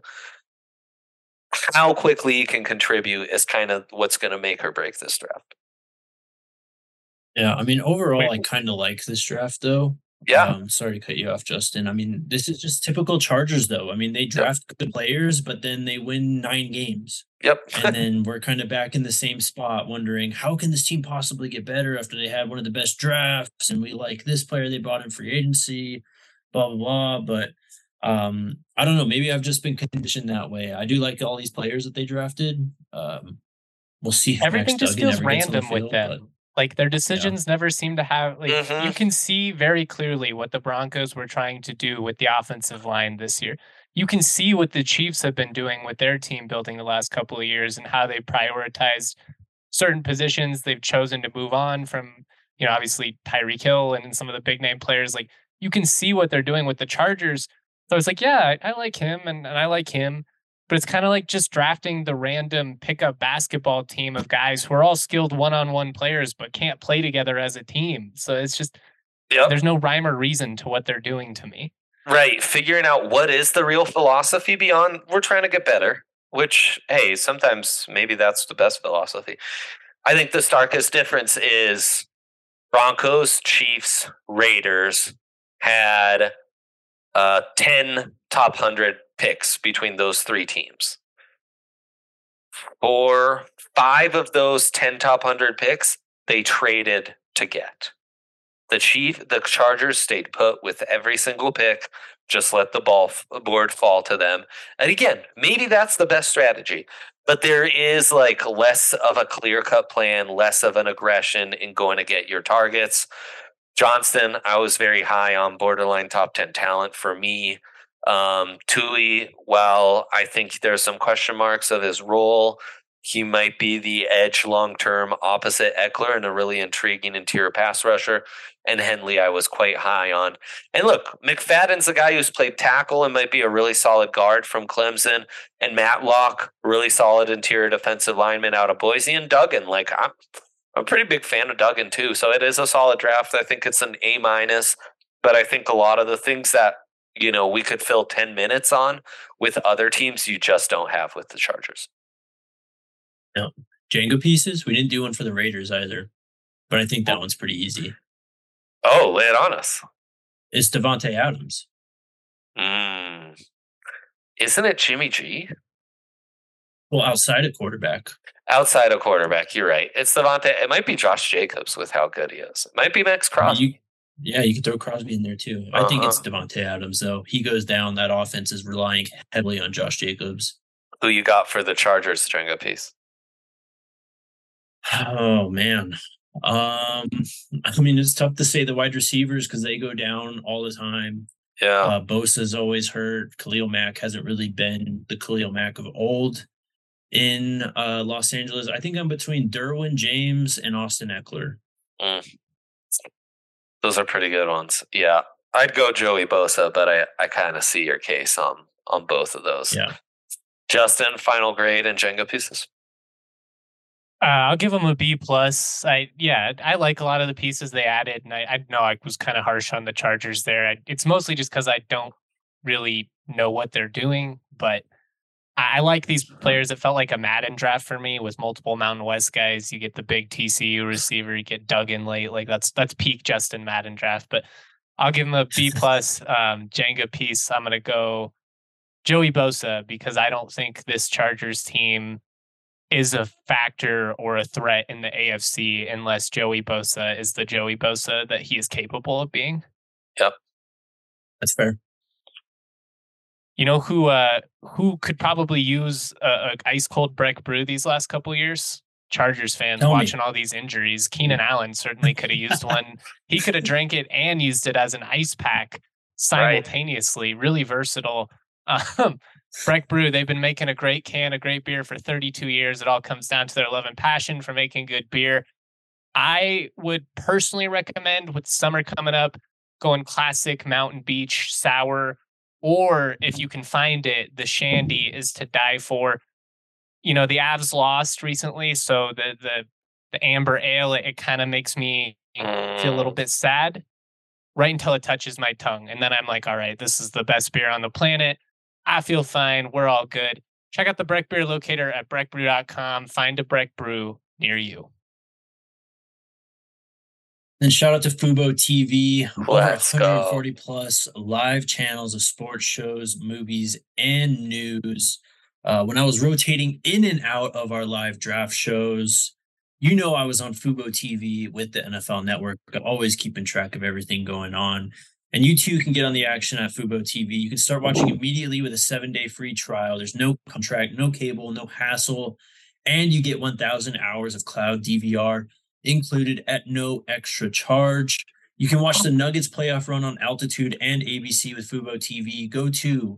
How quickly he can contribute is kind of what's going to make or break this draft. Yeah, I mean, overall, Wait. I kind of like this draft, though. Yeah. Um, sorry to cut you off, Justin. I mean, this is just typical Chargers, though. I mean, they draft yep. good players, but then they win nine games. Yep. And then we're kind of back in the same spot, wondering how can this team possibly get better after they had one of the best drafts, and we like this player they bought in free agency, blah blah blah. But um, I don't know. Maybe I've just been conditioned that way. I do like all these players that they drafted. Um, we'll see. Everything just feels random with them. But, Like their decisions yeah. never seem to have like mm-hmm. you can see very clearly what the Broncos were trying to do with the offensive line this year. You can see what the Chiefs have been doing with their team building the last couple of years and how they prioritized certain positions. They've chosen to move on from, you know, obviously Tyreek Hill and some of the big name players. Like you can see what they're doing with the Chargers. So it's like, yeah, I, I like him and, and I like him. But it's kind of like just drafting the random pickup basketball team of guys who are all skilled one-on-one players but can't play together as a team. So it's just yep. there's no rhyme or reason to what they're doing to me. Right. Figuring out what is the real philosophy beyond we're trying to get better, which, hey, sometimes maybe that's the best philosophy. I think the starkest difference is Broncos, Chiefs, Raiders had uh, ten top one hundred picks between those three teams. For five of those ten top one hundred picks, they traded to get. The Chief, the Chargers stayed put with every single pick, just let the ball board fall to them. And again, maybe that's the best strategy, but there is like less of a clear-cut plan, less of an aggression in going to get your targets. Johnston, I was very high on borderline top ten talent for me. Um, Tuli, while I think there's some question marks of his role, he might be the edge long-term opposite Eckler and a really intriguing interior pass rusher. And Henley, I was quite high on. And look, McFadden's a guy who's played tackle and might be a really solid guard from Clemson. And Matlock, really solid interior defensive lineman out of Boise. And Duggan, like I'm, I'm a pretty big fan of Duggan too. So it is a solid draft. I think it's an A minus. But I think a lot of the things that you know, we could fill ten minutes on with other teams you just don't have with the Chargers. No. Jenga pieces? We didn't do one for the Raiders either, but I think that one's pretty easy. Oh, lay it on us. It's Davante Adams. Mm. Isn't it Jimmy G? Well, outside of quarterback. Outside of quarterback, you're right. It's Davante. It might be Josh Jacobs with how good he is. It might be Max Crosby. You, Yeah, you could throw Crosby in there too. I uh-huh. think it's Davante Adams, though. He goes down. That offense is relying heavily on Josh Jacobs. Who you got for the Chargers Jenga piece? Oh, man. Um, I mean, it's tough to say the wide receivers because they go down all the time. Yeah. Uh, Bosa's always hurt. Khalil Mack hasn't really been the Khalil Mack of old in uh, Los Angeles. I think I'm between Derwin James and Austin Eckler. Mm. Those are pretty good ones. Yeah. I'd go Joey Bosa, but I, I kind of see your case on, on both of those. Yeah. Justin, final grade and Jenga pieces? Uh, I'll give them a B plus. I yeah, I like a lot of the pieces they added, and I, I know I was kind of harsh on the Chargers there. I, it's mostly just because I don't really know what they're doing, but I, I like these players. It felt like a Madden draft for me with multiple Mountain West guys. You get the big T C U receiver, you get Duggan late, like that's that's peak Justin Madden draft. But I'll give him a B plus. um, Jenga piece. I'm gonna go Joey Bosa because I don't think this Chargers team is a factor or a threat in the A F C unless Joey Bosa is the Joey Bosa that he is capable of being. Yep. That's fair. You know who uh, who could probably use a, a ice cold Breck brew these last couple of years? Chargers fans Tell watching me. all these injuries. Keenan Allen certainly could have used one. He could have drank it and used it as an ice pack simultaneously. Right. Really versatile. Um, Breck Brew, they've been making a great can, a great beer for thirty-two years. It all comes down to their love and passion for making good beer. I would personally recommend with summer coming up, going classic Mountain Beach sour, or if you can find it, the Shandy is to die for. You know, the Avs lost recently, so the the the amber ale, it, it kind of makes me feel a little bit sad right until it touches my tongue. And then I'm like, all right, this is the best beer on the planet. I feel fine. We're all good. Check out the Breck Beer Locator at breck brew dot com. Find a Breck Brew near you. And shout out to Fubo T V, Let's over go. one hundred forty plus live channels of sports shows, movies, and news. Uh, when I was rotating in and out of our live draft shows, you know I was on Fubo T V with the N F L Network, always keeping track of everything going on. And you too can get on the action at Fubo T V. You can start watching immediately with a seven-day free trial. There's no contract, no cable, no hassle, and you get one thousand hours of cloud D V R included at no extra charge. You can watch the Nuggets playoff run on Altitude and A B C with Fubo T V. Go to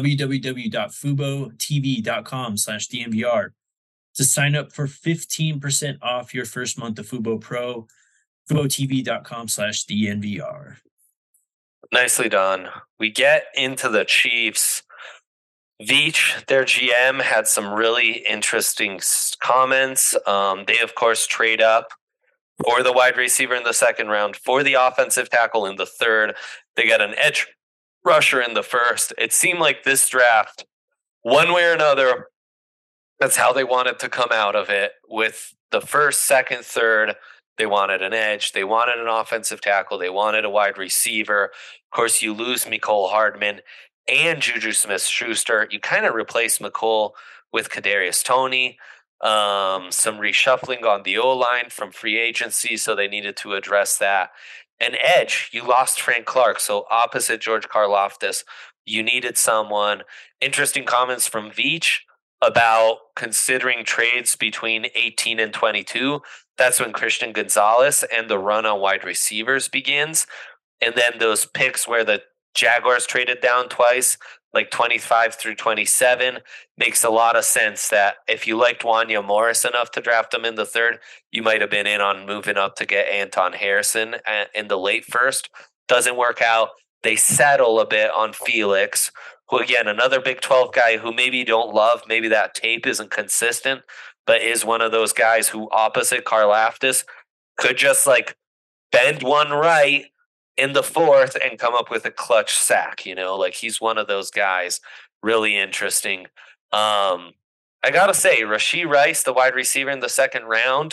www.fubotv.com slash DNVR to sign up for fifteen percent off your first month of Fubo Pro. FuboTV.com slash DNVR. Nicely done. We get into the Chiefs. Veach, their G M, had some really interesting comments. Um, they, of course, trade up for the wide receiver in the second round, for the offensive tackle in the third. They got an edge rusher in the first. It seemed like this draft, one way or another, that's how they wanted to come out of it. With the first, second, third, they wanted an edge. They wanted an offensive tackle. They wanted a wide receiver. Of course, you lose Mecole Hardman and Juju Smith-Schuster. You kind of replace Mecole with Kadarius Toney. Um, some reshuffling on the O-line from free agency, so they needed to address that. And edge, you lost Frank Clark, so opposite George Karlaftis, you needed someone. Interesting comments from Veach about considering trades between eighteen and twenty-two. That's when Christian Gonzalez and the run on wide receivers begins. And then those picks where the Jaguars traded down twice, like twenty-five through twenty-seven, makes a lot of sense that if you liked Wanya Morris enough to draft him in the third, you might have been in on moving up to get Anton Harrison in the late first. Doesn't work out. They settle a bit on Felix, who, again, another Big twelve guy who maybe you don't love. Maybe that tape isn't consistent, but is one of those guys who, opposite Karlaftis, could just like bend one right in the fourth and come up with a clutch sack. You know, like he's one of those guys. Really interesting. Um, I gotta say, Rashee Rice, the wide receiver in the second round,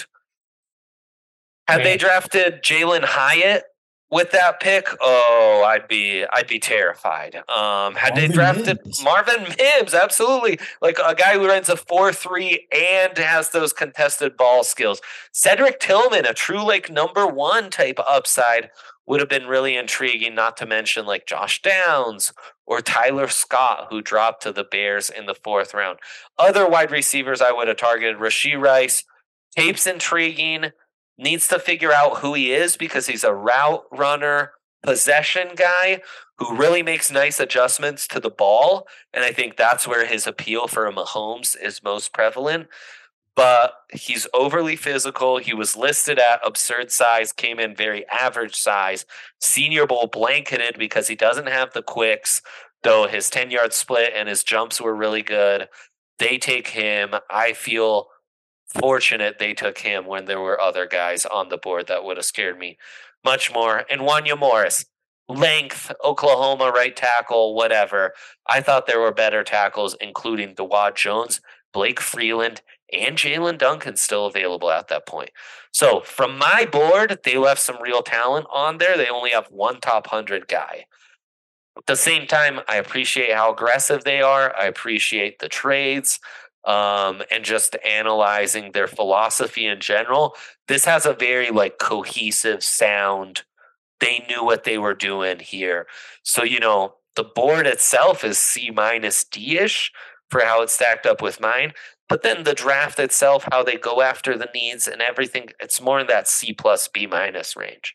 had they drafted Jalen Hyatt with that pick, oh, I'd be I'd be terrified. Um, had Marvin they drafted Mims. Marvin Mims, absolutely, like a guy who runs a four three and has those contested ball skills. Cedric Tillman, a true like number one type upside, would have been really intriguing. Not to mention like Josh Downs or Tyler Scott, who dropped to the Bears in the fourth round. Other wide receivers I would have targeted: Rashee Rice. Tape's intriguing. Needs to figure out who he is because he's a route runner, possession guy who really makes nice adjustments to the ball. And I think that's where his appeal for a Mahomes is most prevalent. But he's overly physical. He was listed at absurd size, came in very average size. Senior Bowl blanketed because he doesn't have the quicks, though his ten-yard split and his jumps were really good. They take him. I feel fortunate they took him when there were other guys on the board that would have scared me much more. And Wanya Morris, length, Oklahoma right tackle, whatever. I thought there were better tackles, including Dawad Jones, Blake Freeland, and Jalen Duncan still available at that point. So from my board, they left some real talent on there. They only have one top one hundred guy. At the same time, I appreciate how aggressive they are. I appreciate the trades. Um, and just analyzing their philosophy in general. This has a very like cohesive sound. They knew what they were doing here. So, you know, the board itself is C minus D-ish for how it's stacked up with mine. But then the draft itself, how they go after the needs and everything, it's more in that C plus B minus range.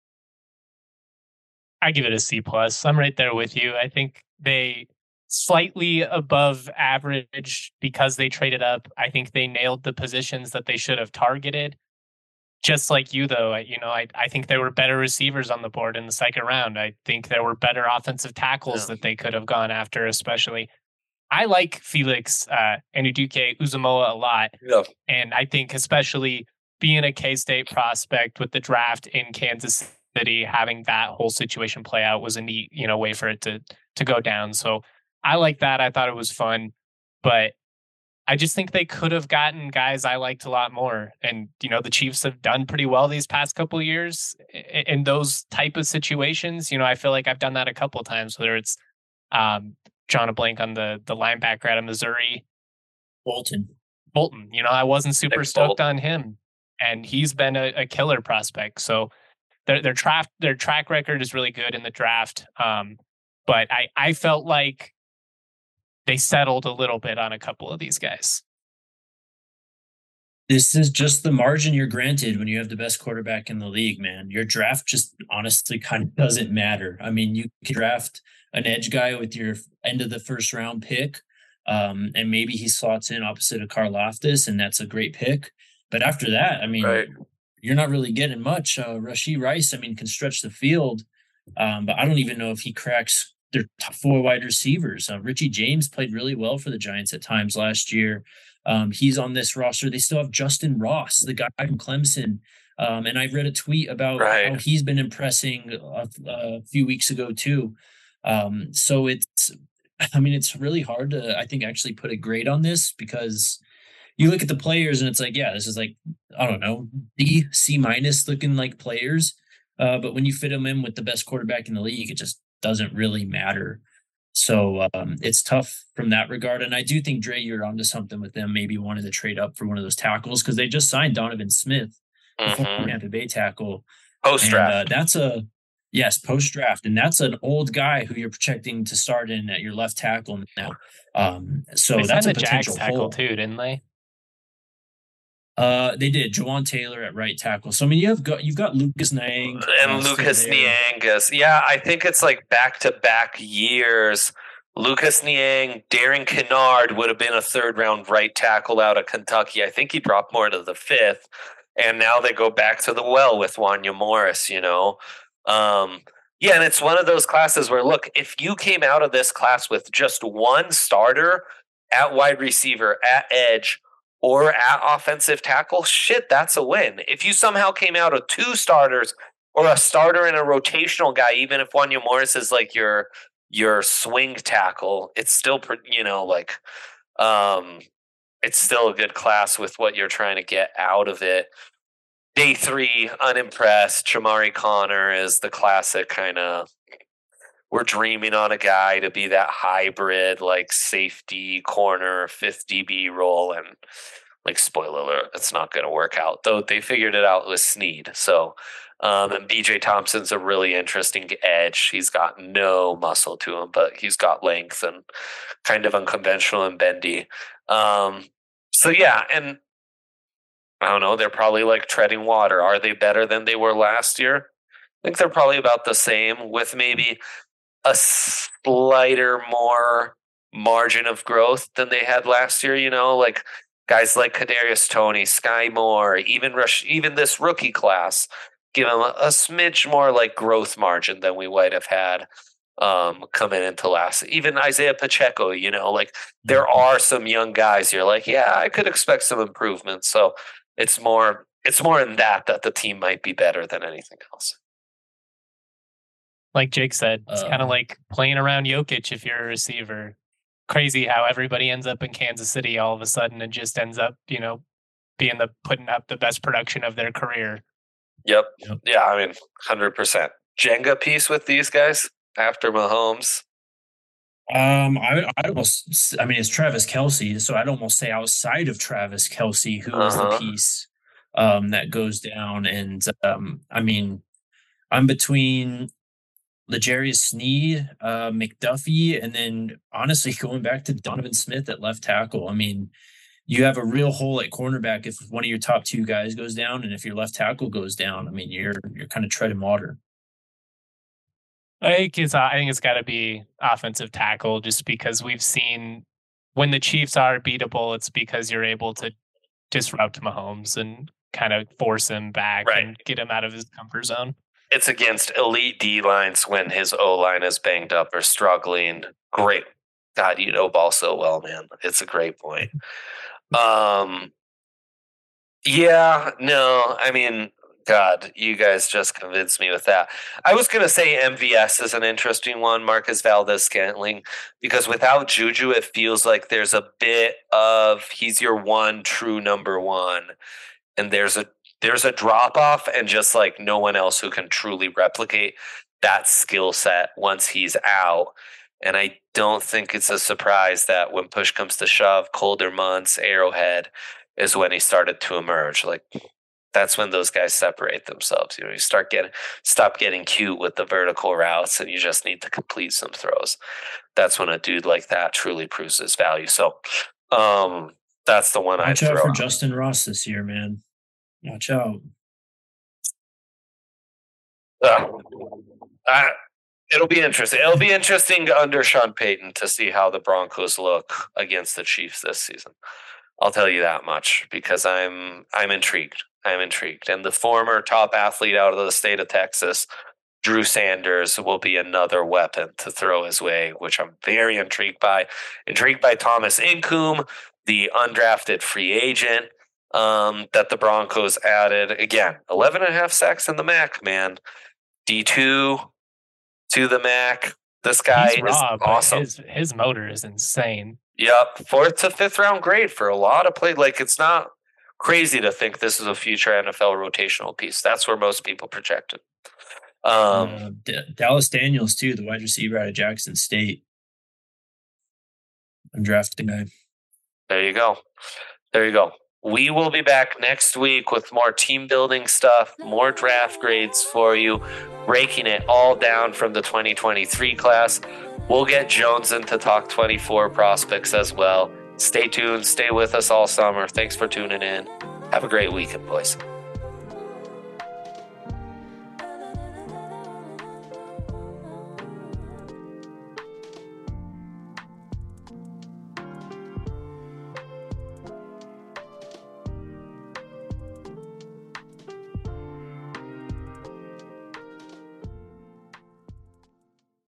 I give it a C plus. I'm right there with you. I think they slightly above average because they traded up. I think they nailed the positions that they should have targeted. Just like you, though, I, you know, I, I think there were better receivers on the board in the second round. I think there were better offensive tackles yeah. that they could have gone after, especially. I like Felix uh, Anudike Uzomah a lot. Yeah. And I think especially being a K-State prospect with the draft in Kansas City, having that whole situation play out was a neat, you know, way for it to to go down. So I like that. I thought it was fun, but I just think they could have gotten guys I liked a lot more. And, you know, the Chiefs have done pretty well these past couple of years i- in those type of situations. You know, I feel like I've done that a couple of times, whether it's um drawing a blank on the the linebacker out of Missouri, Bolton. Bolton. You know, I wasn't super Nick stoked Bolton. on him. And he's been a, a killer prospect. So their their draft their track record is really good in the draft. Um, but I, I felt like they settled a little bit on a couple of these guys. This is just the margin you're granted when you have the best quarterback in the league, man. Your draft just honestly kind of doesn't matter. I mean, you can draft an edge guy with your end of the first round pick, um, and maybe he slots in opposite of Karlaftis, and that's a great pick. But after that, I mean, Right. you're not really getting much. Uh, Rashee Rice, I mean, can stretch the field, um, but I don't even know if he cracks their top four wide receivers. Uh, Richie James played really well for the Giants at times last year. Um, he's on this roster. They still have Justin Ross, the guy from Clemson. Um, and I read a tweet about Right. how he's been impressing a, a few weeks ago too. Um, so it's, I mean, it's really hard to, I think, actually put a grade on this because you look at the players and it's like, yeah, this is like, I don't know, D, C minus looking like players. Uh, but when you fit them in with the best quarterback in the league, it just doesn't really matter. So um, it's tough from that regard. And I do think, Dre, you're onto something with them, maybe wanted to trade up for one of those tackles because they just signed Donovan Smith, the former Mm-hmm. Tampa Bay tackle. Post And draft. uh, that's a, yes, post draft. And that's an old guy who you're projecting to start in at your left tackle now. Um, so They that's signed a the Jags potential tackle hole. too, didn't they? Uh, they did. Jawan Taylor at right tackle. So I mean, you have got you've got Lucas Niang and uh, still Lucas there. Niangas. Yeah, I think it's like back to back years. Lucas Niang, Darren Kennard would have been a third round right tackle out of Kentucky. I think he dropped more to the fifth. And now they go back to the well with Wanya Morris, you know. Um, yeah, and it's one of those classes where, look, if you came out of this class with just one starter at wide receiver, at edge, or at offensive tackle, shit, that's a win. If you somehow came out of two starters or a starter and a rotational guy, even if Wanya Morris is like your your swing tackle, it's still, you know, like um, it's still a good class with what you're trying to get out of it. Day three, unimpressed. Chamari Connor is the classic kind of, we're dreaming on a guy to be that hybrid, like safety corner, fifth D B role. And like, spoiler alert, it's not going to work out, though they figured it out with Snead. So, um, and B J Thompson's a really interesting edge. He's got no muscle to him, but he's got length and kind of unconventional and bendy. Um, so, yeah, and I don't know, they're probably like treading water. Are they better than they were last year? I think they're probably about the same with maybe a slighter more margin of growth than they had last year, you know, like guys like Kadarius Toney, Sky Moore, even Rush, even this rookie class, give them a, a smidge more like growth margin than we might have had um, coming into last. Even Isaiah Pacheco, you know, like there are some young guys. You're like, yeah, I could expect some improvement. So it's more, it's more in that that the team might be better than anything else. Like Jake said, it's Uh, kind of like playing around Jokic if you're a receiver. Crazy how everybody ends up in Kansas City all of a sudden and just ends up, you know, being the putting up the best production of their career. Yep. Yep. Yeah, I mean, one hundred percent. Jenga piece with these guys after Mahomes. Um, I I'd almost, I mean, it's Travis Kelce, so I'd almost say outside of Travis Kelce, who is Uh-huh. the piece um that goes down, and um, I mean, I'm between L'Jarius Sneed, uh, McDuffie, and then honestly going back to Donovan Smith at left tackle. I mean, you have a real hole at cornerback if one of your top two guys goes down, and if your left tackle goes down, I mean, you're you're kind of treading water. I think it's I think it's got to be offensive tackle just because we've seen when the Chiefs are beatable, it's because you're able to disrupt Mahomes and kind of force him back Right. and get him out of his comfort zone. It's against elite D lines when his O line is banged up or struggling. Great. God, you know ball so well, man. It's a great point. Um, yeah, no, I mean, God, you guys just convinced me with that. I was going to say M V S is an interesting one, Marcus Valdes-Scantling, because without Juju, it feels like there's a bit of he's your one true number one, and there's a there's a drop off, and just like no one else who can truly replicate that skill set once he's out. And I don't think it's a surprise that when push comes to shove, colder months, Arrowhead is when he started to emerge. Like, that's when those guys separate themselves. You know, you start getting, stop getting cute with the vertical routes, and you just need to complete some throws. That's when a dude like that truly proves his value. So, um, that's the one I Watch throw out for out. Justin Ross this year, man. Watch out. Uh, I, it'll be interesting. It'll be interesting under Sean Payton to see how the Broncos look against the Chiefs this season. I'll tell you that much, because I'm I'm intrigued. I'm intrigued. And the former top athlete out of the state of Texas, Drew Sanders, will be another weapon to throw his way, which I'm very intrigued by. Intrigued by Thomas Incoom, the undrafted free agent um, that the Broncos added. Again, eleven and a half sacks in the M A C, man. D two to the M A C. This guy He's raw, is but awesome. His, his motor is insane. Yep, fourth to fifth round grade for a lot of play. Like, it's not crazy to think this is a future N F L rotational piece. That's where most people projected. Um, uh, D- Dallas Daniels too, the wide receiver out of Jackson State, undrafted guy. There you go. There you go. We will be back next week with more team building stuff, more draft grades for you, breaking it all down from the twenty twenty-three class. We'll get Jones in to talk twenty-four prospects as well. Stay tuned. Stay with us all summer. Thanks for tuning in. Have a great weekend, boys.